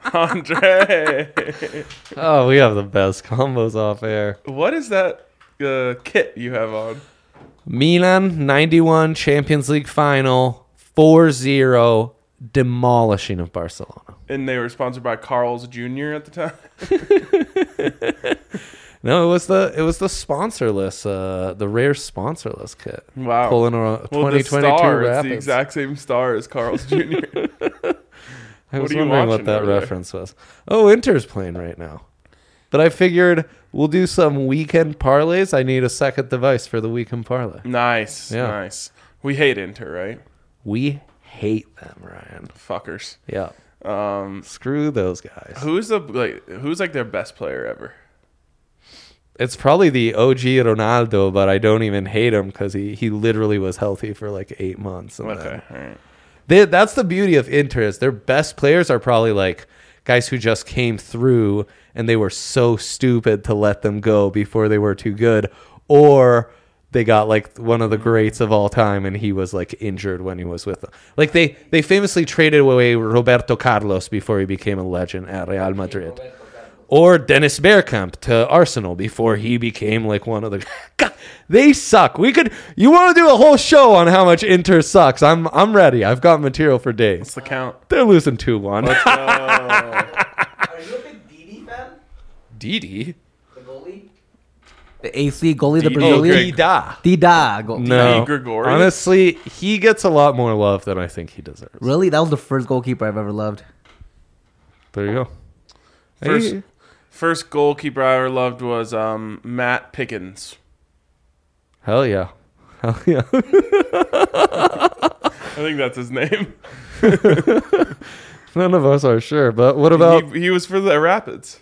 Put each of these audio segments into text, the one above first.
Andre. Oh, we have the best combos off air. What is that kit you have on? Milan 91 Champions League final 4-0 demolishing of Barcelona. And they were sponsored by Carl's Jr. at the time. No, it was the sponsorless, the rare sponsorless kit. Wow. Pulling a 2022 the star, Rapids. it's the exact same star as Carl's Jr. I was are you wondering what watching that over there? reference was. Oh, Inter's playing right now. But I figured we'll do some weekend parlays. I need a second device for the weekend parlay. Nice. Yeah. Nice. We hate Inter, right? We hate them, Ryan. Fuckers. Yeah. Screw those guys. Who's their best player ever? It's probably the OG Ronaldo, but I don't even hate him because he literally was healthy for like 8 months. And Okay. All right. that's the beauty of Inter is their best players are probably like guys who just came through and they were so stupid to let them go before they were too good, or they got like one of the greats of all time and he was like injured when he was with them. Like they famously traded away Roberto Carlos before he became a legend at Real Madrid. Or Dennis Bergkamp to Arsenal before he became like one of the. God, they suck. You want to do a whole show on how much Inter sucks? I'm ready. I've got material for days. What's the count? They're losing 2-1. Are you a big Didi fan? Didi? The goalie? The AC goalie, the Didi. Brazilian? Dida. No, Gregorius? honestly, he gets a lot more love than I think he deserves. Really? That was the first goalkeeper I've ever loved. There you go. First goalkeeper I ever loved was Matt Pickens. Hell yeah. Hell yeah. I think that's his name. None of us are sure, but what about... He was for the Rapids.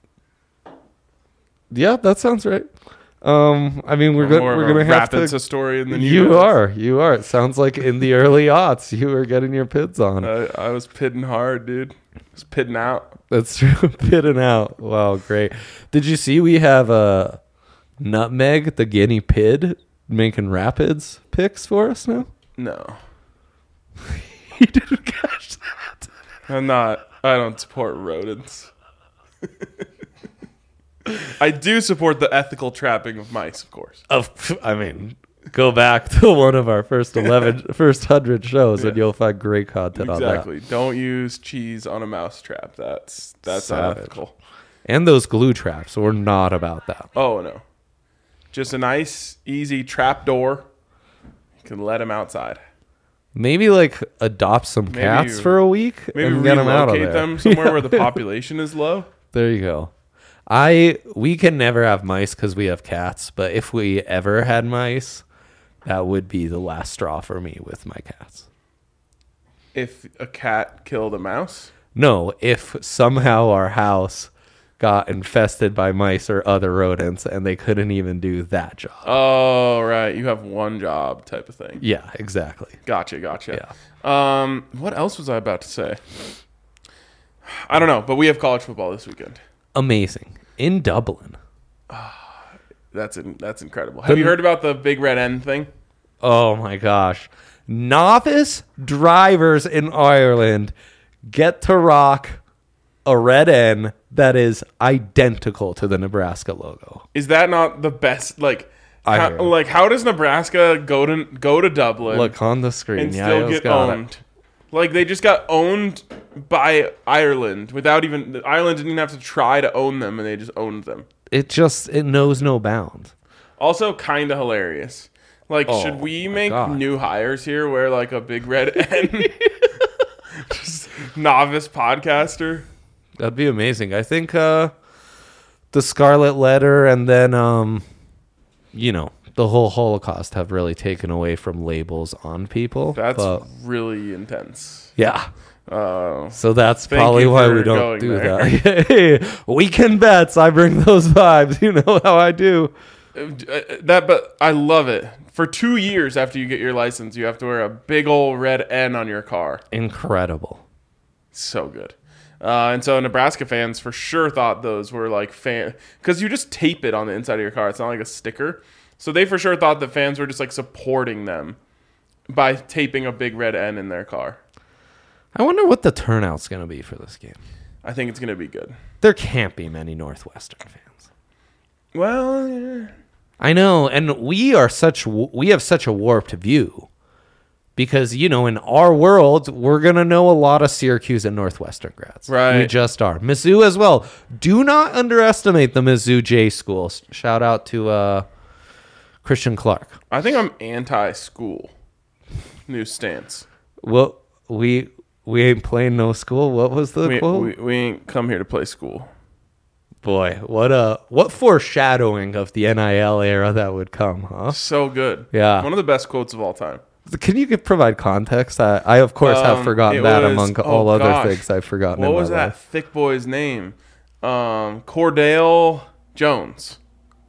Yeah, that sounds right. I mean, we're More of going a to have Rapids to... historian than You guys. are. It sounds like in the early aughts, you were getting your pids on. I was pitting hard, dude. I was pitting out. That's true. Pitting out. Wow, great. Did you see we have a Nutmeg, the guinea pig, making Rapids picks for us now? No. You didn't catch that. I don't support rodents. I do support the ethical trapping of mice, of course. I mean, go back to one of our first 100 shows and you'll find great content on that. Exactly. Don't use cheese on a mouse trap. That's Savage. unethical. And those glue traps. We're not about that. Oh, no. Just a nice, easy trap door. You can let them outside. Maybe like adopt some cats for a week Maybe and get them out of relocate there. them somewhere where the population is low. There you go. We can never have mice because we have cats, but if we ever had mice, that would be the last straw for me with my cats. If a cat killed a mouse? No, if somehow our house got infested by mice or other rodents and they couldn't even do that job. Oh, right. You have one job type of thing. Yeah, exactly. Gotcha. Yeah. What else was I about to say? I don't know, but we have college football this weekend. Amazing. In Dublin. That's incredible. Have you heard about the Big Red N thing? Oh my gosh. Novice drivers in Ireland get to rock a red N that is identical to the Nebraska logo. Is that not the best? I heard. How does Nebraska go to Dublin Look on the screen. and Yeah, still get owned? Like, they just got owned by Ireland without even... Ireland didn't even have to try to own them, and they just owned them. It knows no bounds. Also, kind of hilarious. Like, Oh, should we my make God. new hires here wear, like, a big red N? Just novice podcaster? That'd be amazing. I think the Scarlet Letter and then, the whole Holocaust have really taken away from labels on people. That's but, really intense. yeah. So that's Thank probably you why for we don't going do there. that. Hey, weekend bets. I bring those vibes. You know how I do. But I love it. For 2 years after you get your license, you have to wear a big old red N on your car. Incredible. So good. And so Nebraska fans for sure thought those were like because you just tape it on the inside of your car. It's not like a sticker. So they for sure thought that fans were just like supporting them by taping a big red N in their car. I wonder what the turnout's going to be for this game. I think it's going to be good. There can't be many Northwestern fans. Well, yeah. I know, and we have such a warped view because, in our world, we're going to know a lot of Syracuse and Northwestern grads. Right. We just are. Mizzou as well. Do not underestimate the Mizzou J schools. Shout out to Christian Clark. I think I'm anti-school. New stance. Well, we ain't playing no school. What was the quote? We ain't come here to play school. Boy, what foreshadowing of the NIL era that would come, huh? So good. Yeah. One of the best quotes of all time. Can you provide context? I of course have forgotten that was- among all other things I've forgotten. What in was my that life. thick boy's name? Cordell Jones.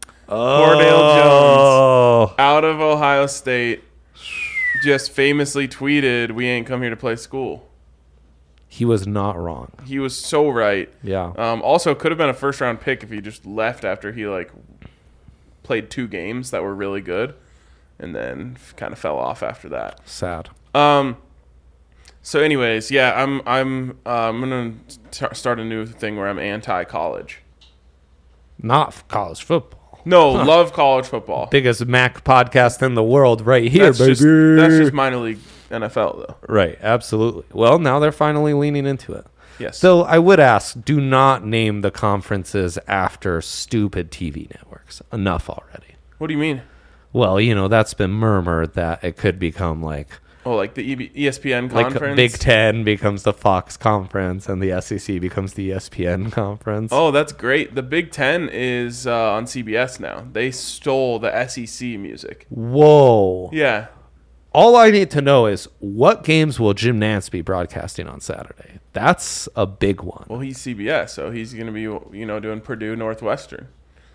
Oh, Out of Ohio State, just famously tweeted, "We ain't come here to play school." he was not wrong. He was so right. Yeah. Also, could have been a first-round pick if he just left after he played 2 games that were really good, and then kind of fell off after that. Sad. So, anyways, yeah, I'm gonna start a new thing where I'm anti-college. Not college football. No, love college football. Biggest Mac podcast in the world, right here, That's baby. that's just minor league NFL though. Right, absolutely. Well, now they're finally leaning into it. Yes. So I would ask, do not name the conferences after stupid TV networks. Enough already. What do you mean? Well, that's been murmured that it could become like Oh, the ESPN conference. Like Big Ten becomes the Fox conference and the SEC becomes the ESPN conference. Oh, that's great. The Big Ten is on CBS now. They stole the SEC music. Whoa. Yeah. All I need to know is what games will Jim Nantz be broadcasting on Saturday? That's a big one. Well, he's CBS, so he's going to be, doing Purdue Northwestern.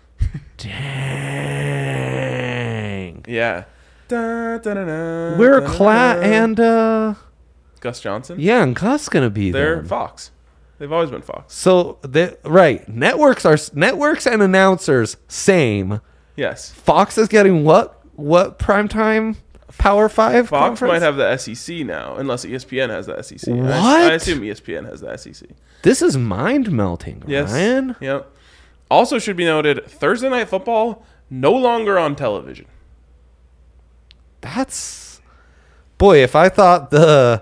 Dang. Yeah. Where and Gus Johnson? yeah, and Gus gonna be there. They're Fox. They've always been Fox. So networks and announcers same. Yes. Fox is getting what primetime Power 5 Fox conference? might have the SEC now, unless ESPN has the SEC. What? I assume ESPN has the SEC. This is mind melting, Yes. Ryan. Yep. Also should be noted, Thursday Night Football no longer on television. That's boy. If I thought the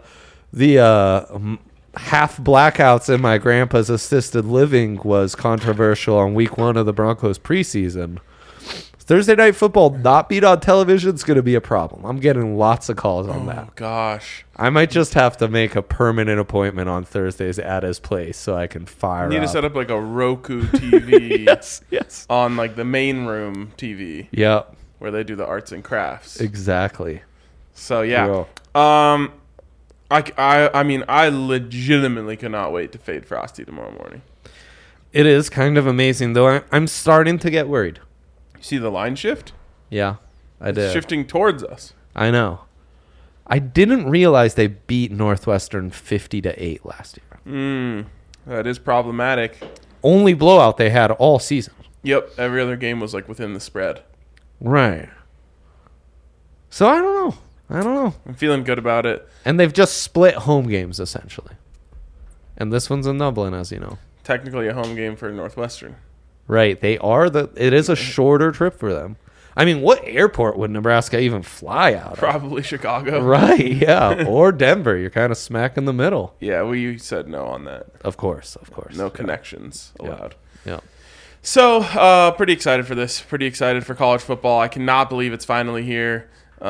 half blackouts in my grandpa's assisted living was controversial on week 1 of the Broncos preseason, Thursday Night Football not being on television is going to be a problem. I'm getting lots of calls on that. Oh, gosh. I might just have to make a permanent appointment on Thursdays at his place so I can fire You need up. to set up a Roku TV Yes. on the main room TV Yep. where they do the arts and crafts. Exactly. So yeah. Yeah. I mean I legitimately cannot wait to fade Frosty tomorrow morning. It is kind of amazing, though. I'm starting to get worried. You see the line shift? Yeah, I It's did. shifting towards us. I know. I didn't realize they beat Northwestern 50-8 last year. That is problematic. Only blowout they had all season. Yep, every other game was within the spread. Right. So I don't know. I'm feeling good about it. And they've just split home games essentially. And this one's in Dublin, as you know. Technically a home game for Northwestern. Right. It is a shorter trip for them. I mean, what airport would Nebraska even fly out of? Probably Chicago. Right, yeah. Or Denver. You're kind of smack in the middle. Yeah, we said no on that. Of course. No connections allowed. Yeah. So, pretty excited for this. Pretty excited for college football. I cannot believe it's finally here.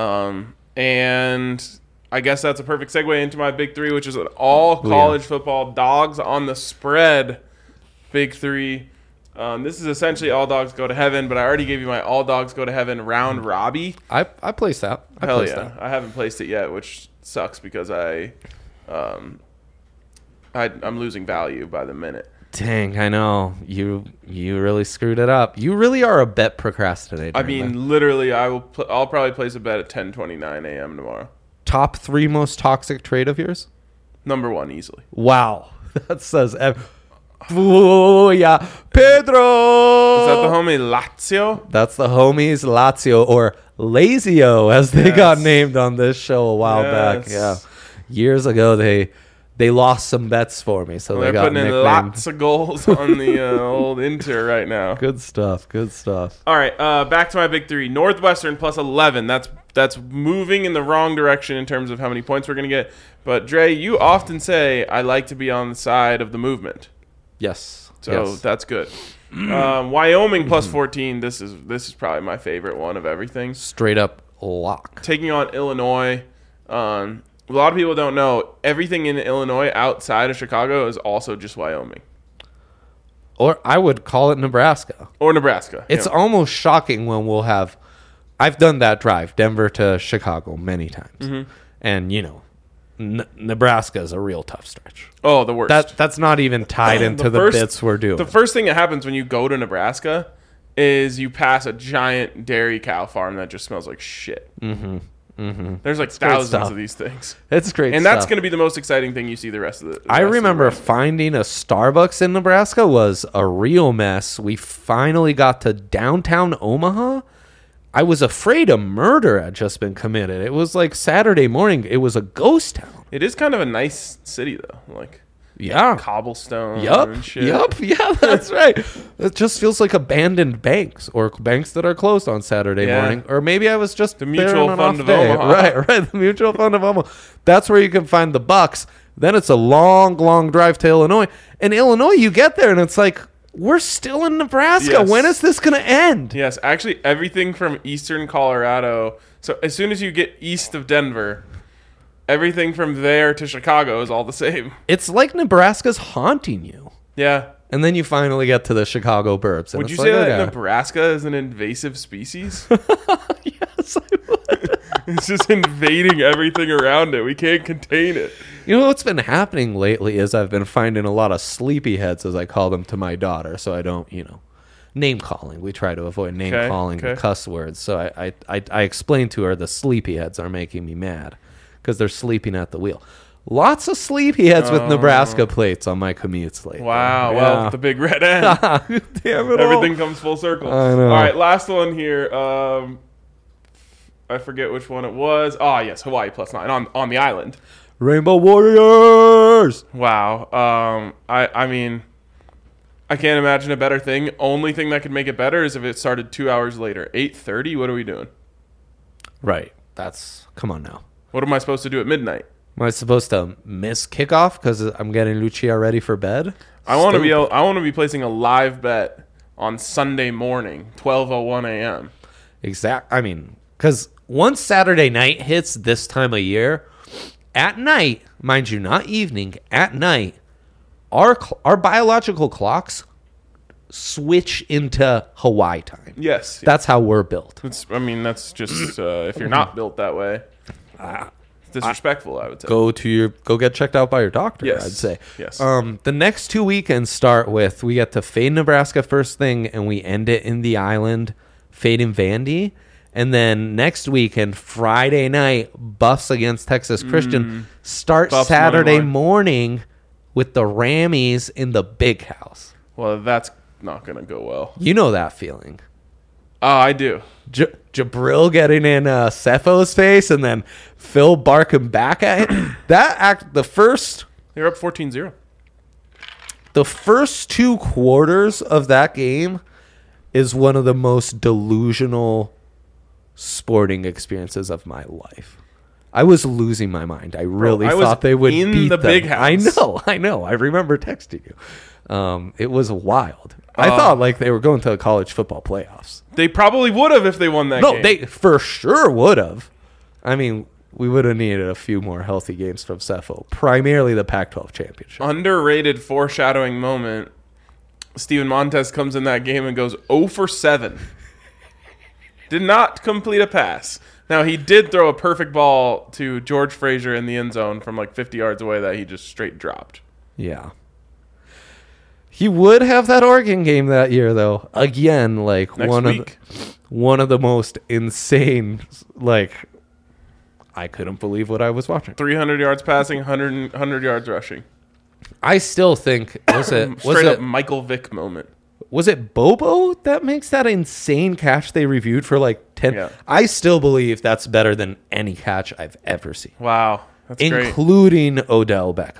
And I guess that's a perfect segue into my big 3, which is an all college football dogs on the spread big 3. This is essentially all dogs go to heaven, but I already gave you my all dogs go to heaven round Robbie. I placed that. Hell yeah. I haven't placed it yet, which sucks because I'm losing value by the minute. Dang, I know. You really screwed it up. You really are a bet procrastinator. I mean, literally, I'll probably place a bet at 10:29 a.m. tomorrow. Top 3 most toxic trade of yours? Number 1, easily. Wow. That says oh, yeah. Pedro! Is that the homie Lazio? That's the homies Lazio, or Lazio, as they got named on this show a while back. Yes. Yeah. Years ago, they they lost some bets for me, so they They're got putting in nicknamed. lots of goals on the old Inter right now. Good stuff. Good stuff. All right, back to my big three. Northwestern plus 11. That's moving in the wrong direction in terms of how many points we're going to get. But, Dre, you often say, I like to be on the side of the movement. Yes. So yes. that's good. Wyoming plus 14. This is probably my favorite one of everything. Straight up lock. Taking on Illinois. A lot of people don't know everything in Illinois outside of Chicago is also just Wyoming Or I would call it Nebraska. or Nebraska. It's Yeah. almost shocking when we'll have. I've done that drive, Denver to Chicago, many times, Mm-hmm. and Nebraska is a real tough stretch. Oh, the worst. That's not even tied into the bits we're doing. The first thing that happens when you go to Nebraska is you pass a giant dairy cow farm that just smells like shit. Mm-hmm. Mm-hmm. There's like thousands stuff. of these things. It's great, And that's stuff. going to be the most exciting thing you see the rest of the. I remember finding a Starbucks in Nebraska was a real mess. We finally got to downtown Omaha. I was afraid a murder had just been committed. It was like Saturday morning. It was a ghost town. It is kind of a nice city though, like Yeah. cobblestone. Yup. And shit. Yup. Yeah, that's right. It just feels like abandoned banks or banks that are closed on Saturday Yeah. morning. Or maybe I was just The there Mutual on an Fund off of day. Omaha. Right. The Mutual Fund of Omaha. That's where you can find the bucks. Then it's a long, long drive to Illinois. And Illinois, you get there and it's like, we're still in Nebraska. Yes. When is this going to end? Yes, actually, everything from eastern Colorado. So as soon as you get east of Denver, everything from there to Chicago is all the same. It's like Nebraska's haunting you. Yeah. And then you finally get to the Chicago burbs. And Would you it's say like, that okay. Nebraska is an invasive species? Yes, I would. It's just invading everything around it. We can't contain it. You know what's been happening lately is I've been finding a lot of sleepyheads, as I call them, to my daughter, so I don't, name calling. We try to avoid name Okay, calling and okay. cuss words. So I explained to her the sleepyheads are making me mad because they're sleeping at the wheel. Lots of sleepyheads with Nebraska plates on my commutes lately. Wow. Yeah. Well, the big red end. Damn it all. Everything comes full circle. I know. All right, last one here. I forget which one it was. Oh, yes, Hawaii plus 9 on the island. Rainbow Warriors. Wow. I mean, I can't imagine a better thing. Only thing that could make it better is if it started 2 hours later. 8:30. What are we doing? Right. Come on now. What am I supposed to do at midnight? Am I supposed to miss kickoff because I'm getting Lucia ready for bed? I want to Stupid. be placing a live bet on Sunday morning, 12:01 a.m. I mean, because once Saturday night hits this time of year, at night, mind you, not evening, at night, our biological clocks switch into Hawaii time. Yes. That's how we're built. That's just if you're not built that way, it's disrespectful. I would say. Go get checked out by your doctor. Yes. I'd say. Yes. The next 2 weekends start with we get to Fade, Nebraska first thing, and we end it in the island, Fade in Vandy. And then next weekend, Friday night, Buffs against Texas Christian. Start Buffs Saturday money line. morning with the Rammies in the big house. Well, that's not gonna go well. You know that feeling. Oh, I do. Jabril getting in Cefo's face and then Phil barking back at him. You're up 14-0. The first 2 quarters of that game is one of the most delusional sporting experiences of my life. I was losing my mind. I really I was thought they would in beat the them. big house. I know. I remember texting you. It was wild. I thought like they were going to the college football playoffs. They probably would have if they won that No, game. they for sure would have. I mean, we would have needed a few more healthy games from Cepho. Primarily the Pac-12 championship. Underrated foreshadowing moment. Steven Montez comes in that game and goes 0 for 7. Did not complete a pass. Now, he did throw a perfect ball to George Frazier in the end zone from like 50 yards away that he just straight dropped. Yeah. He would have that Oregon game that year, though. Again, like Next week. one of the most insane. Like, I couldn't believe what I was watching. 300 yards passing, 100 yards rushing. I still think Straight up Michael Vick moment. Was it Bobo that makes that insane catch they reviewed for like 10? Yeah. I still believe that's better than any catch I've ever seen, Wow. That's great. including Odell Beckham.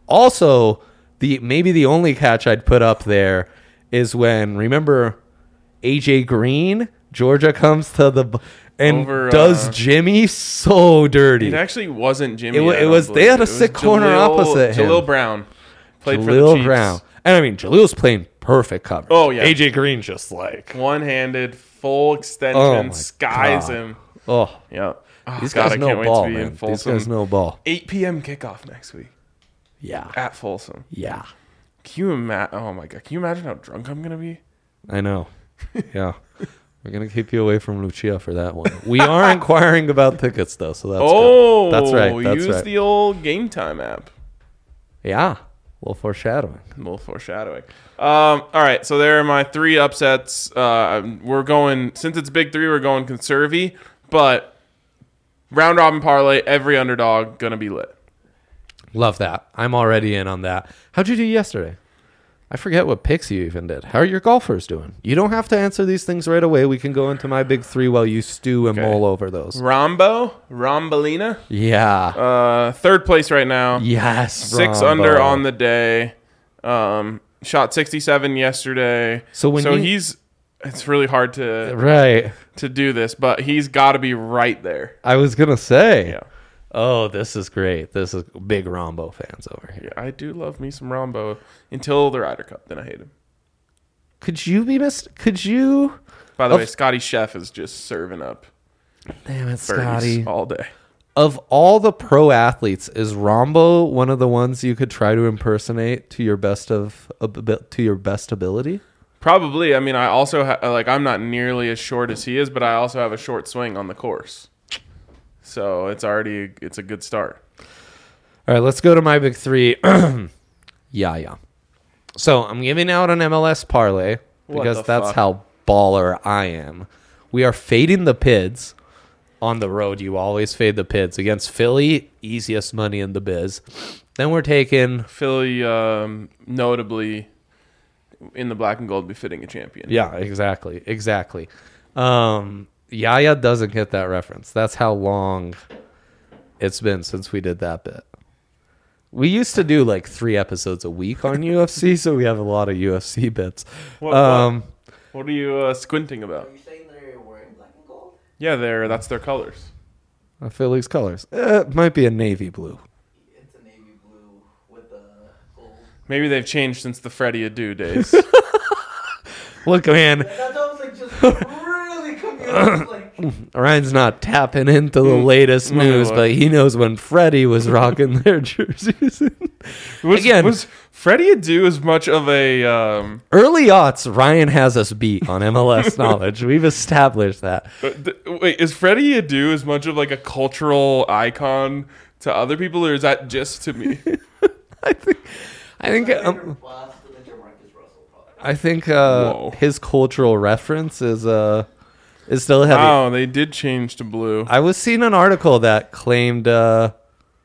Also, maybe the only catch I'd put up there is when, remember, AJ Green, Georgia comes to the and does Jimmy so dirty. It actually wasn't Jimmy. It was they had a sick corner opposite him. Jaleel Brown played for the Jaleel Chiefs. Brown. And I mean, Jalil's playing perfect coverage. Oh, yeah. AJ Green just like One-handed, full extension, Oh, my skies God. him. oh, Yeah. Oh, these God, guys I know can't wait ball, to be in man. These Folsom. guys know ball. 8 p.m. kickoff next week Yeah, at Folsom. yeah. Can you imagine? Oh my God! Can you imagine how drunk I'm gonna be? I know. Yeah. We're going to keep you away from Lucia for that one. We are inquiring about tickets, though, so that's good. That's right. That's use right. the old Game Time app. Yeah. A little foreshadowing. A little foreshadowing. All right, so there are my 3 upsets. We're going, since it's Big 3, we're going conservy, but round robin parlay, every underdog gonna be lit. Love that. I'm already in on that. How'd you do yesterday? I forget what picks you even did. How are your golfers doing? You don't have to answer these things right away. We can go into my big 3 while you stew and mull over those. Rombolina. Yeah. 3rd place right now. Yes. 6 Rombo. under on the day. Shot 67 yesterday. So it's really hard to Right. do this, but he's got to be right there. I was going to say. Yeah. Oh, this is great. This is big Rombo fans over here. Yeah, I do love me some Rombo until the Ryder Cup. Then I hate him. Could you? By the way, Scotty Chef is just serving up Damn it, birdies Scotty. all day. Of all the pro athletes, is Rombo one of the ones you could try to impersonate to your best ability? Probably. I mean, I also I'm not nearly as short as he is, but I also have a short swing on the course. So it's a good start. All right, let's go to my big 3. Yeah. So I'm giving out an MLS parlay because the that's fuck? how baller I am. We are fading the Pids on the road. You always fade the Pids against Philly, easiest money in the biz. Then we're taking Philly, notably in the black and gold, befitting a champion. Yeah, exactly. Yaya doesn't get that reference. That's how long it's been since we did that bit. We used to do like 3 episodes a week on UFC, so we have a lot of UFC bits. What are you squinting about? Are you saying they're wearing black and gold? Yeah, that's their colors. Philly's colors. It might be a navy blue. It's a navy blue with the gold. Maybe they've changed since the Freddie Adu days. Look, man, That was like just really confusing. Like, Ryan's not tapping into the latest let me news, look. but he knows when Freddie was rocking their jerseys. Again, was Freddie Adu as much of a early aughts, Ryan has us beat on MLS knowledge. We've established that. wait, is Freddie Adu as much of like a cultural icon to other people, or is that just to me? I think last to the Jamarcus Russell product. I think Whoa. his cultural reference is still heavy. Wow, they did change to blue. I was seeing an article that claimed the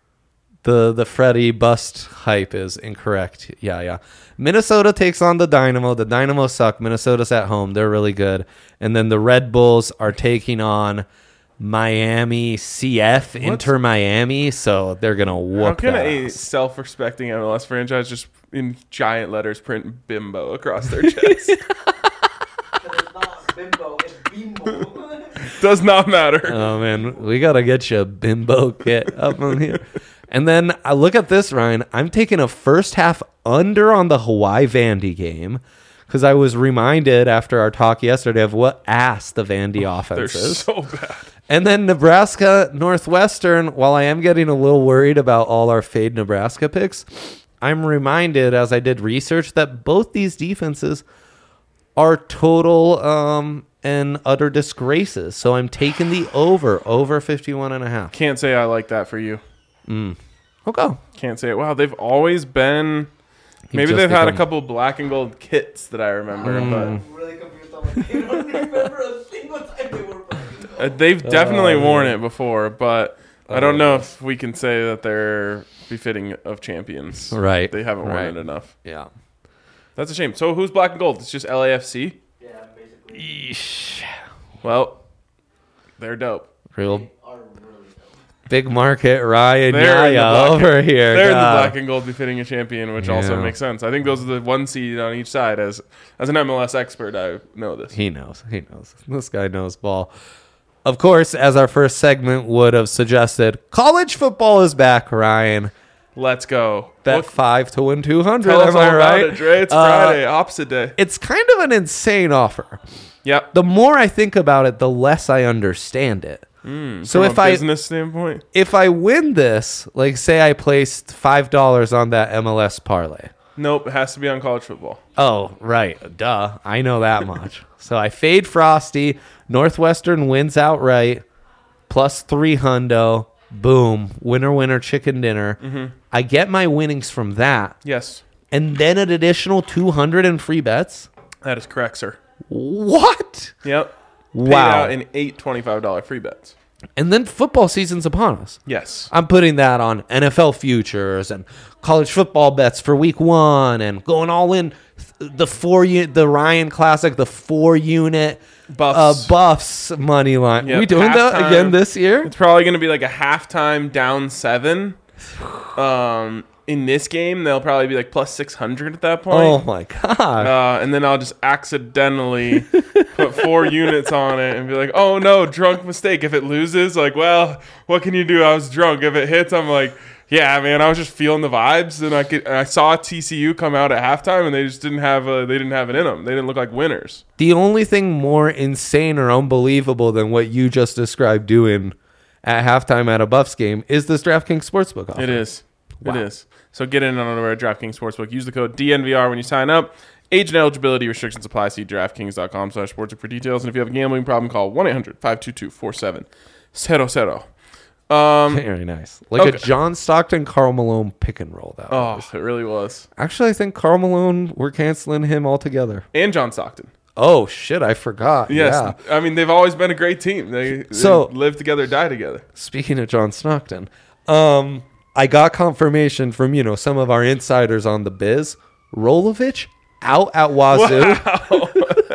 Freddie bust hype is incorrect. Yeah. Minnesota takes on the Dynamo. The Dynamo suck. Minnesota's at home. They're really good. And then the Red Bulls are taking on Miami CF, Inter Miami. So they're going to How whoop can that a ass. self-respecting MLS franchise just in giant letters print bimbo across their chest? Because it's not bimbo, it's bimbo. Does not matter. Oh, man. We got to get you a bimbo kit up on here. And then I look at this, Ryan. I'm taking a first half under on the Hawaii Vandy game because I was reminded after our talk yesterday of what ass the Vandy They're offense is. so bad. And then Nebraska Northwestern, while I am getting a little worried about all our fade Nebraska picks, I'm reminded as I did research that both these defenses are total and utter disgraces. So I'm taking the over 51.5. Can't say I like that for you. Okay. Can't say it. Wow, they've always been. Maybe just they've had a become- couple black and gold kits that I remember, I'm really confused on what they don't remember a single time they were playing. but they've definitely worn it before. But I don't know if we can say that they're befitting of champions. Right. They haven't worn Right. it enough. Yeah. That's a shame. So who's black and gold? It's just LAFC. Yeah, basically. Yeesh. Well, they're dope. Real. They are really dumb. Big market Ryan They're in the Yaya black- over here. They're in the God. black and gold befitting a champion, which also Yeah. makes sense. I think those are the one seed on each side. As an MLS expert, I know this. He knows. He knows. This guy knows ball. Of course, as our first segment would have suggested, college football is back, Ryan. Let's go. Bet What- 5 to win 200. Tell us Am all I about right? it, Dre. It's Friday, opposite day. It's kind of an insane offer. Yep. The more I think about it, the less I understand it. So From a business standpoint, if I win this, like say I placed $5 on that MLS parlay. nope, it has to be on college football. Oh, right. Duh. I know that much. So I fade Frosty. Northwestern wins outright. Plus 3 hundo. Boom. Winner, winner, chicken dinner. I get my winnings from that. Yes, And then an additional 200 in free bets. that is correct, sir. What? Yep. Paid Wow. out in 8 $25 free bets. And then football season's upon us. Yes. I'm putting that on NFL futures and college football bets for week 1 and going all in the Ryan Classic, the 4-unit Buffs money line. Yep, We doing that halftime. again this year? It's probably going to be like a halftime down 7. In this game, they'll probably be like plus 600 at that point. Oh my god. And then I'll just accidentally put 4 units on it and be like, oh no, drunk mistake. If it loses, like, well, what can you do? I was drunk. If it hits, I'm like, yeah, man, I was just feeling the vibes. And I saw TCU come out at halftime and they just didn't have it in them. They didn't look like winners. The only thing more insane or unbelievable than what you just described doing at halftime at a Buffs game is this DraftKings Sportsbook offer. It is. Wow. It is. So get in on our DraftKings Sportsbook. Use the code DNVR when you sign up. Age and eligibility restrictions apply. See DraftKings.com/sportsbook for details. And if you have a gambling problem, call 1-800-522-4700. Very nice. Like Okay. a John Stockton, Karl Malone pick and roll. That Oh, was. it really was. Actually, I think Karl Malone, we're canceling him altogether. And John Stockton. Oh, shit, I forgot. Yes. Yeah. I mean, they've always been a great team. They live together, die together. Speaking of John Stockton, I got confirmation from, some of our insiders on the biz. Rolovich out at Wazoo. Wow.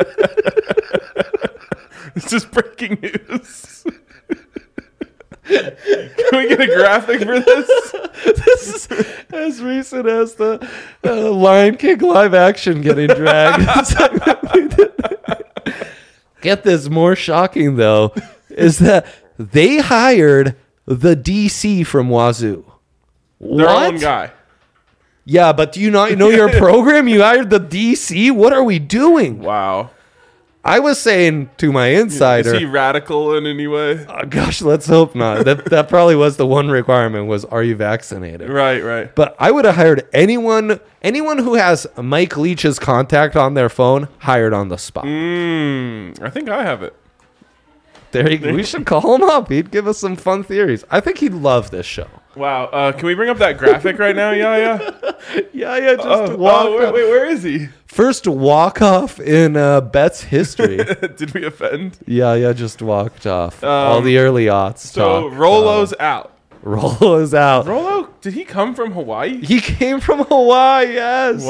It's just breaking news. Can we get a graphic for this? This is as recent as the Lion King live action getting dragged. Get this, more shocking though, is that they hired the DC from Wazoo. Their own guy. Yeah, but do you not know your program? You hired the DC? What are we doing? Wow. I was saying to my insider, Is he radical in any way? oh, gosh, let's hope not. That probably was the one requirement was, are you vaccinated? Right. But I would have hired anyone who has Mike Leach's contact on their phone, hired on the spot. I think I have it. We should call him up. He'd give us some fun theories. I think he'd love this show. Wow. Can we bring up that graphic right now, Yaya? Yeah, just walk wait, off. where is he? First walk-off in Bet's history. Did we offend? Yeah, just walked off. All the early aughts. So Rolo's out. Rolo's out. Rolo, did he come from Hawaii? He came from Hawaii, yes.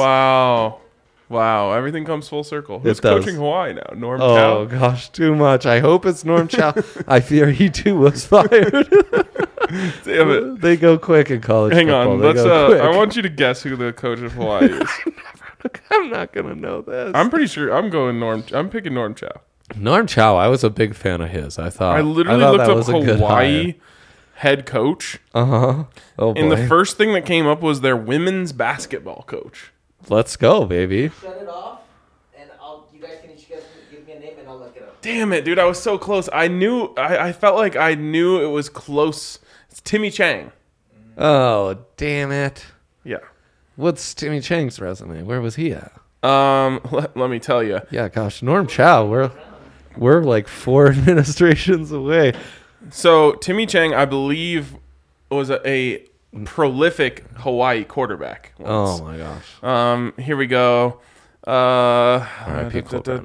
Wow. Everything comes full circle. It Who's does. coaching Hawaii now? Norm Oh, Chow? gosh, too much. I hope it's Norm Chow. I fear he, too, was fired. Damn it. They go quick in college Hang football. on. They Let's. go quick. I want you to guess who the coach of Hawaii is. I'm not going to know this. I'm pretty sure I'm going Norm. I'm picking Norm Chow. Norm Chow, I was a big fan of his. I I literally thought looked that up was a good Hawaii head coach, Uh-huh. Oh, boy. and the first thing that came up was their women's basketball coach. Let's go, baby. Shut it off, and you guys can each give me a name, and I'll look it up. Damn it, dude! I was so close. I felt like I knew it was close. It's Timmy Chang. Oh, damn it. Yeah. What's Timmy Chang's resume? Where was he at? Let me tell you. Yeah, gosh, Norm Chow. We're like 4 administrations away. So Timmy Chang, I believe, was a prolific Hawaii quarterback. once. Oh my gosh. Here we go. R.I.P.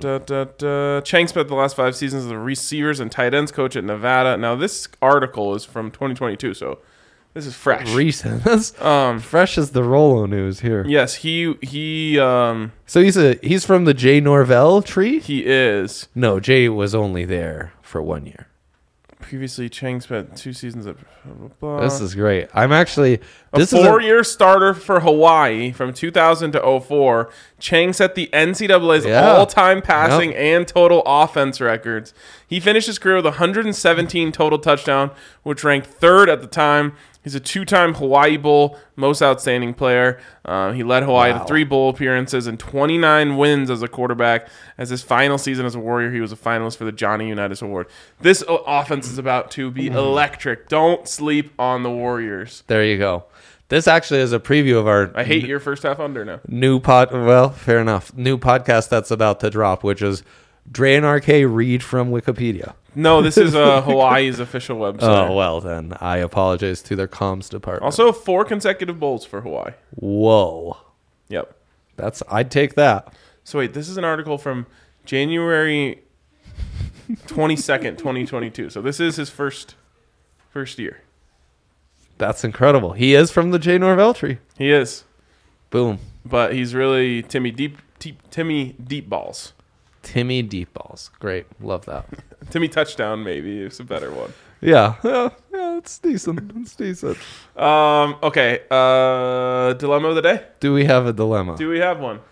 Chang spent the last 5 seasons as a receivers and tight ends coach at Nevada. Now this article is from 2022, so this is fresh. Recent. That's fresh as the Rolo news here. Yes, he So he's from the Jay Norvell tree? is. No, Jay was only there for 1 year. Previously, Chang spent 2 seasons at blah, blah, blah. This is great. I'm actually this a is 4-year starter for Hawaii from 2000 to 04. Chang set the NCAA's all-time passing and total offense records. He finished his career with 117 total touchdowns, which ranked third at the time. He's a 2-time Hawaii Bowl most outstanding player. He led Hawaii to 3 bowl appearances and 29 wins as a quarterback. As his final season as a Warrior, he was a finalist for the Johnny Unitas Award. This offense is about to be electric. Don't sleep on the Warriors. There you go. This actually is a preview of our I hate your first half under now. well, fair enough. New podcast that's about to drop, which is Dre and RK read from Wikipedia. No, this is Hawaii's official website. Oh, well, then I apologize to their comms department. Also, 4 consecutive bowls for Hawaii. Whoa. Yep. I'd take that. So wait, this is an article from January 22nd, 2022. So this is his first year. That's incredible. He is from the J. Norvell tree. He is. Boom. But he's really Timmy Deep Balls. Timmy Deep Balls. Great. Love that. Timmy Touchdown, maybe. It's a better one. Yeah, it's decent. It's decent. Okay. Dilemma of the day? Do we have a dilemma? Do we have one?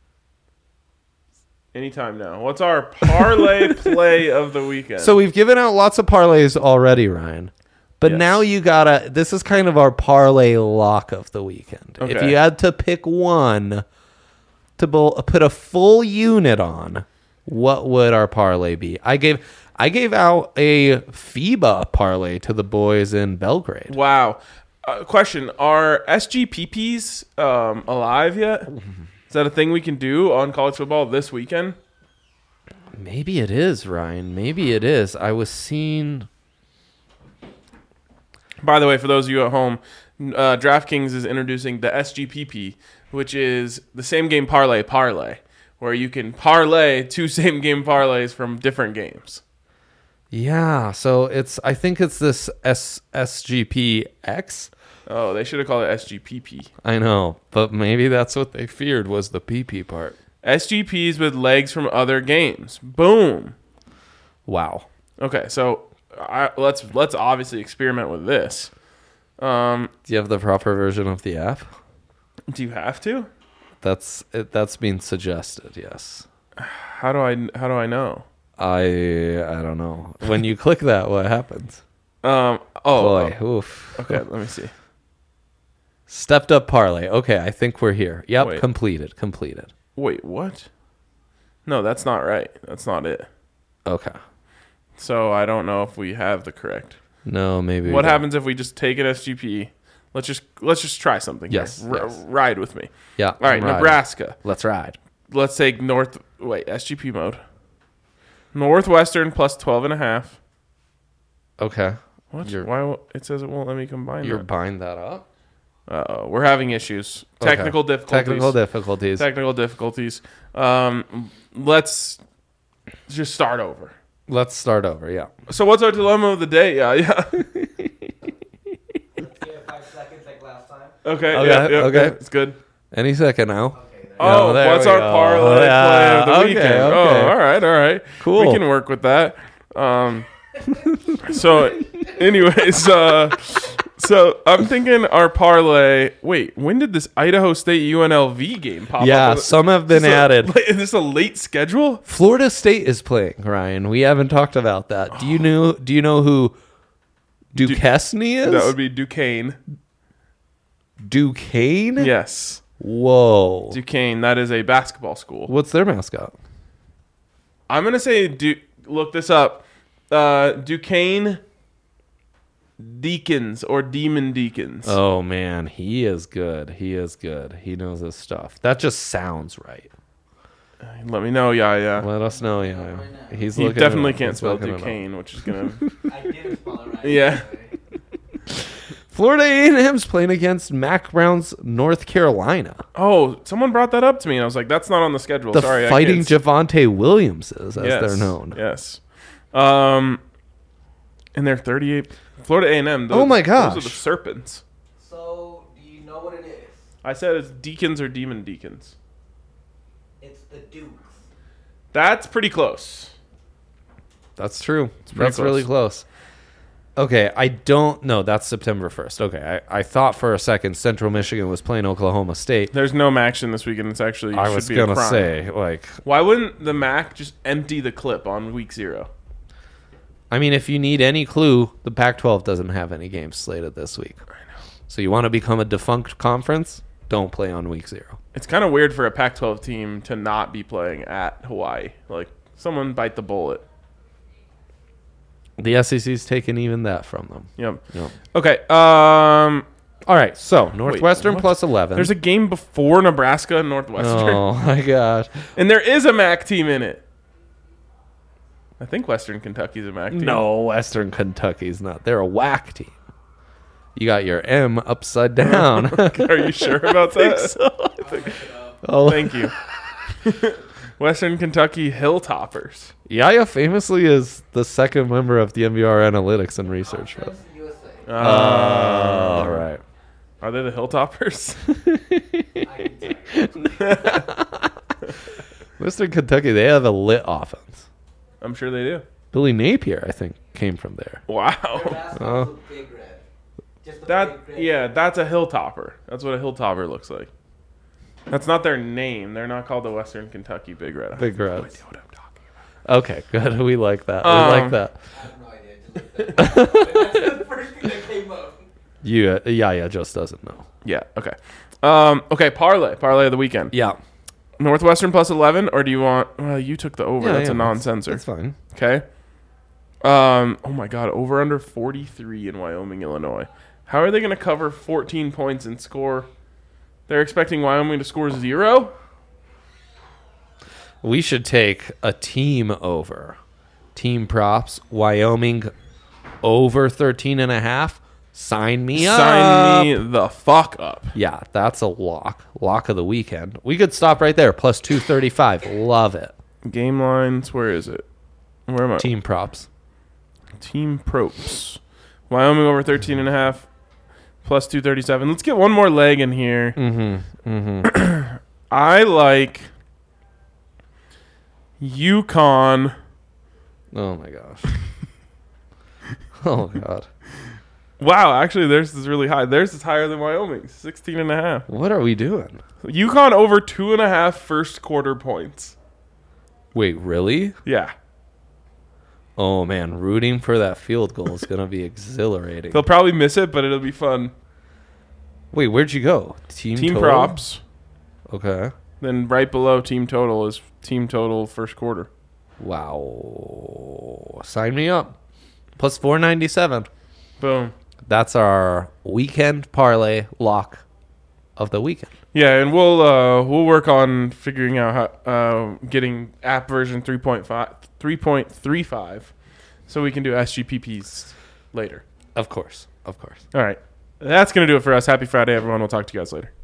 Anytime now. What's our parlay play of the weekend? So we've given out lots of parlays already, Ryan. But Yes. now you gotta. This is kind of our parlay lock of the weekend. If Okay. you had to pick one to put a full unit on, what would our parlay be? I gave out a FIBA parlay to the boys in Belgrade. Wow. Question: are SGPPs alive yet? Is that a thing we can do on college football this weekend? Maybe it is, Ryan. Maybe it is. I was seeing. By the way, for those of you at home, DraftKings is introducing the SGPP, which is the same game parlay, where you can parlay 2 same game parlays from different games. Yeah, so I think it's this SGPX. Oh, they should have called it SGPP. I know, but maybe that's what they feared was the PP part. SGPs with legs from other games. Boom. Wow. Okay, so let's obviously experiment with this. Do you have the proper version of the app? Do you have to? That's being suggested, yes. How do I know? I don't know. When you click that, what happens? Boy, oof. Okay, let me see. Stepped up parlay. Okay, I think we're here. Yep, Wait. completed. Wait, what? No, that's not right. That's not it. Okay. So I don't know if we have the correct. No, maybe. What happens if we just take an SGP? Let's just try something. Yes, Here. yes. Ride with me. Yeah. All right, I'm riding. Nebraska. Let's ride. Let's take SGP mode. Northwestern plus 12.5. Okay. What? Why? It says it won't let me combine. You're that. buying that up? We're having issues. Okay. Technical difficulties. Technical difficulties. Let's just start over. Let's start over, yeah. So what's our dilemma of the day? Yeah. Yeah, 5 seconds like last time. Okay. Okay, Yeah, okay. It's good. Any second now. Okay. Oh, there what's we our go. parlay Yeah, play of the okay, weekend? okay. Oh, all right. Cool. We can work with that. So, anyways, so I'm thinking our parlay. Wait, when did this Idaho State UNLV game pop up? Yeah, some have been added. Is this a late schedule? Florida State is playing, Ryan. We haven't talked about that. Do you know who Duquesne is? That would be Duquesne. Duquesne? Yes, Whoa. Duquesne. That is a basketball school. What's their mascot? I'm gonna say look this up. Duquesne Deacons or Demon Deacons. Oh man, he is good. He knows his stuff. That just sounds right. Let me know. Yeah. Let us know. Yeah, Right now. he's You looking definitely it up. can't He's spell looking it up. Duquesne, which is gonna. I didn't spell it right. Yeah. Florida A&M's playing against Mac Brown's North Carolina. Oh, someone brought that up to me, and I was like, "That's not on the schedule." The Sorry, Fighting kids. Javonte Williamses, as Yes, they're known. Yes. And they're 38. Florida A&M. Oh my gosh. Those are the Serpents. So, do you know what it is? I said it's Deacons or Demon Deacons. It's the Dukes. That's pretty close. That's true. pretty That's close. really close. Okay, I don't know. That's September 1st. Okay, I thought for a second Central Michigan was playing Oklahoma State. There's no action this weekend. It's actually I should was be going a to crime. say, like, Why wouldn't the MAC just empty the clip on week 0? I mean, if you need any clue, the Pac-12 doesn't have any games slated this week. I know. So you want to become a defunct conference? Don't play on week 0. It's kind of weird for a Pac-12 team to not be playing at Hawaii. Like, someone bite the bullet. The SEC's taken even that from them. Yep. Okay. All right, so Northwestern what? plus 11. There's a game before Nebraska and Northwestern. Oh, my gosh. And there is a MAC team in it. I think Western Kentucky's a MAC team. No, Western Kentucky's not. They're a whack team. You got your M upside down. Are you sure about that? Oh, Thank you. Western Kentucky Hilltoppers. Yaya famously is the second member of the MBR Analytics and Research. Conference USA. All right. Are they the Hilltoppers? I can tell you. Western Kentucky, they have a lit offense. I'm sure they do. Billy Napier, I think, came from there. Their Wow. basketball's a big red. Just a That big red. yeah, that's a Hilltopper. That's what a Hilltopper looks like. That's not their name. They're not called the Western Kentucky Big Red. Big I have no Reds. idea what I'm talking about. Okay, good. We like that. We like that. I have no idea. Just look that up. That's the first thing that came up. Yaya just doesn't know. Yeah. Okay. Okay. Parlay of the weekend. Yeah. Northwestern plus 11, or do you want? Well, you took the over. Yeah, That's yeah, a non-sensor. That's fine. Okay. Oh my God. Over under 43 in Wyoming, Illinois. How are they going to cover 14 points and score? They're expecting Wyoming to score 0? We should take a team over. Team props. Wyoming over 13.5. Sign me up. Sign me the fuck up. Yeah, that's a lock. Lock of the weekend. We could stop right there. Plus 235. Love it. Game lines. Where is it? Where am I? Team props. Team props. Wyoming over 13.5. Plus 237. Let's get one more leg in here. I like UConn. Oh, my gosh. Oh, God. Wow, actually, theirs is really high. Theirs is higher than Wyoming's, 16.5. What are we doing? UConn over 2.5 first quarter points. Wait, really? Yeah. Oh, man. Rooting for that field goal is going to be exhilarating. They'll probably miss it, but it'll be fun. Wait, where'd you go? Team total? Props. Okay. Then right below team total is team total first quarter. Wow. Sign me up. Plus 497. Boom. That's our weekend parlay lock of the weekend. Yeah, and we'll work on figuring out how getting app version 3.35 so we can do SGPPs later. Of course. Of course. All right. That's going to do it for us. Happy Friday, everyone. We'll talk to you guys later.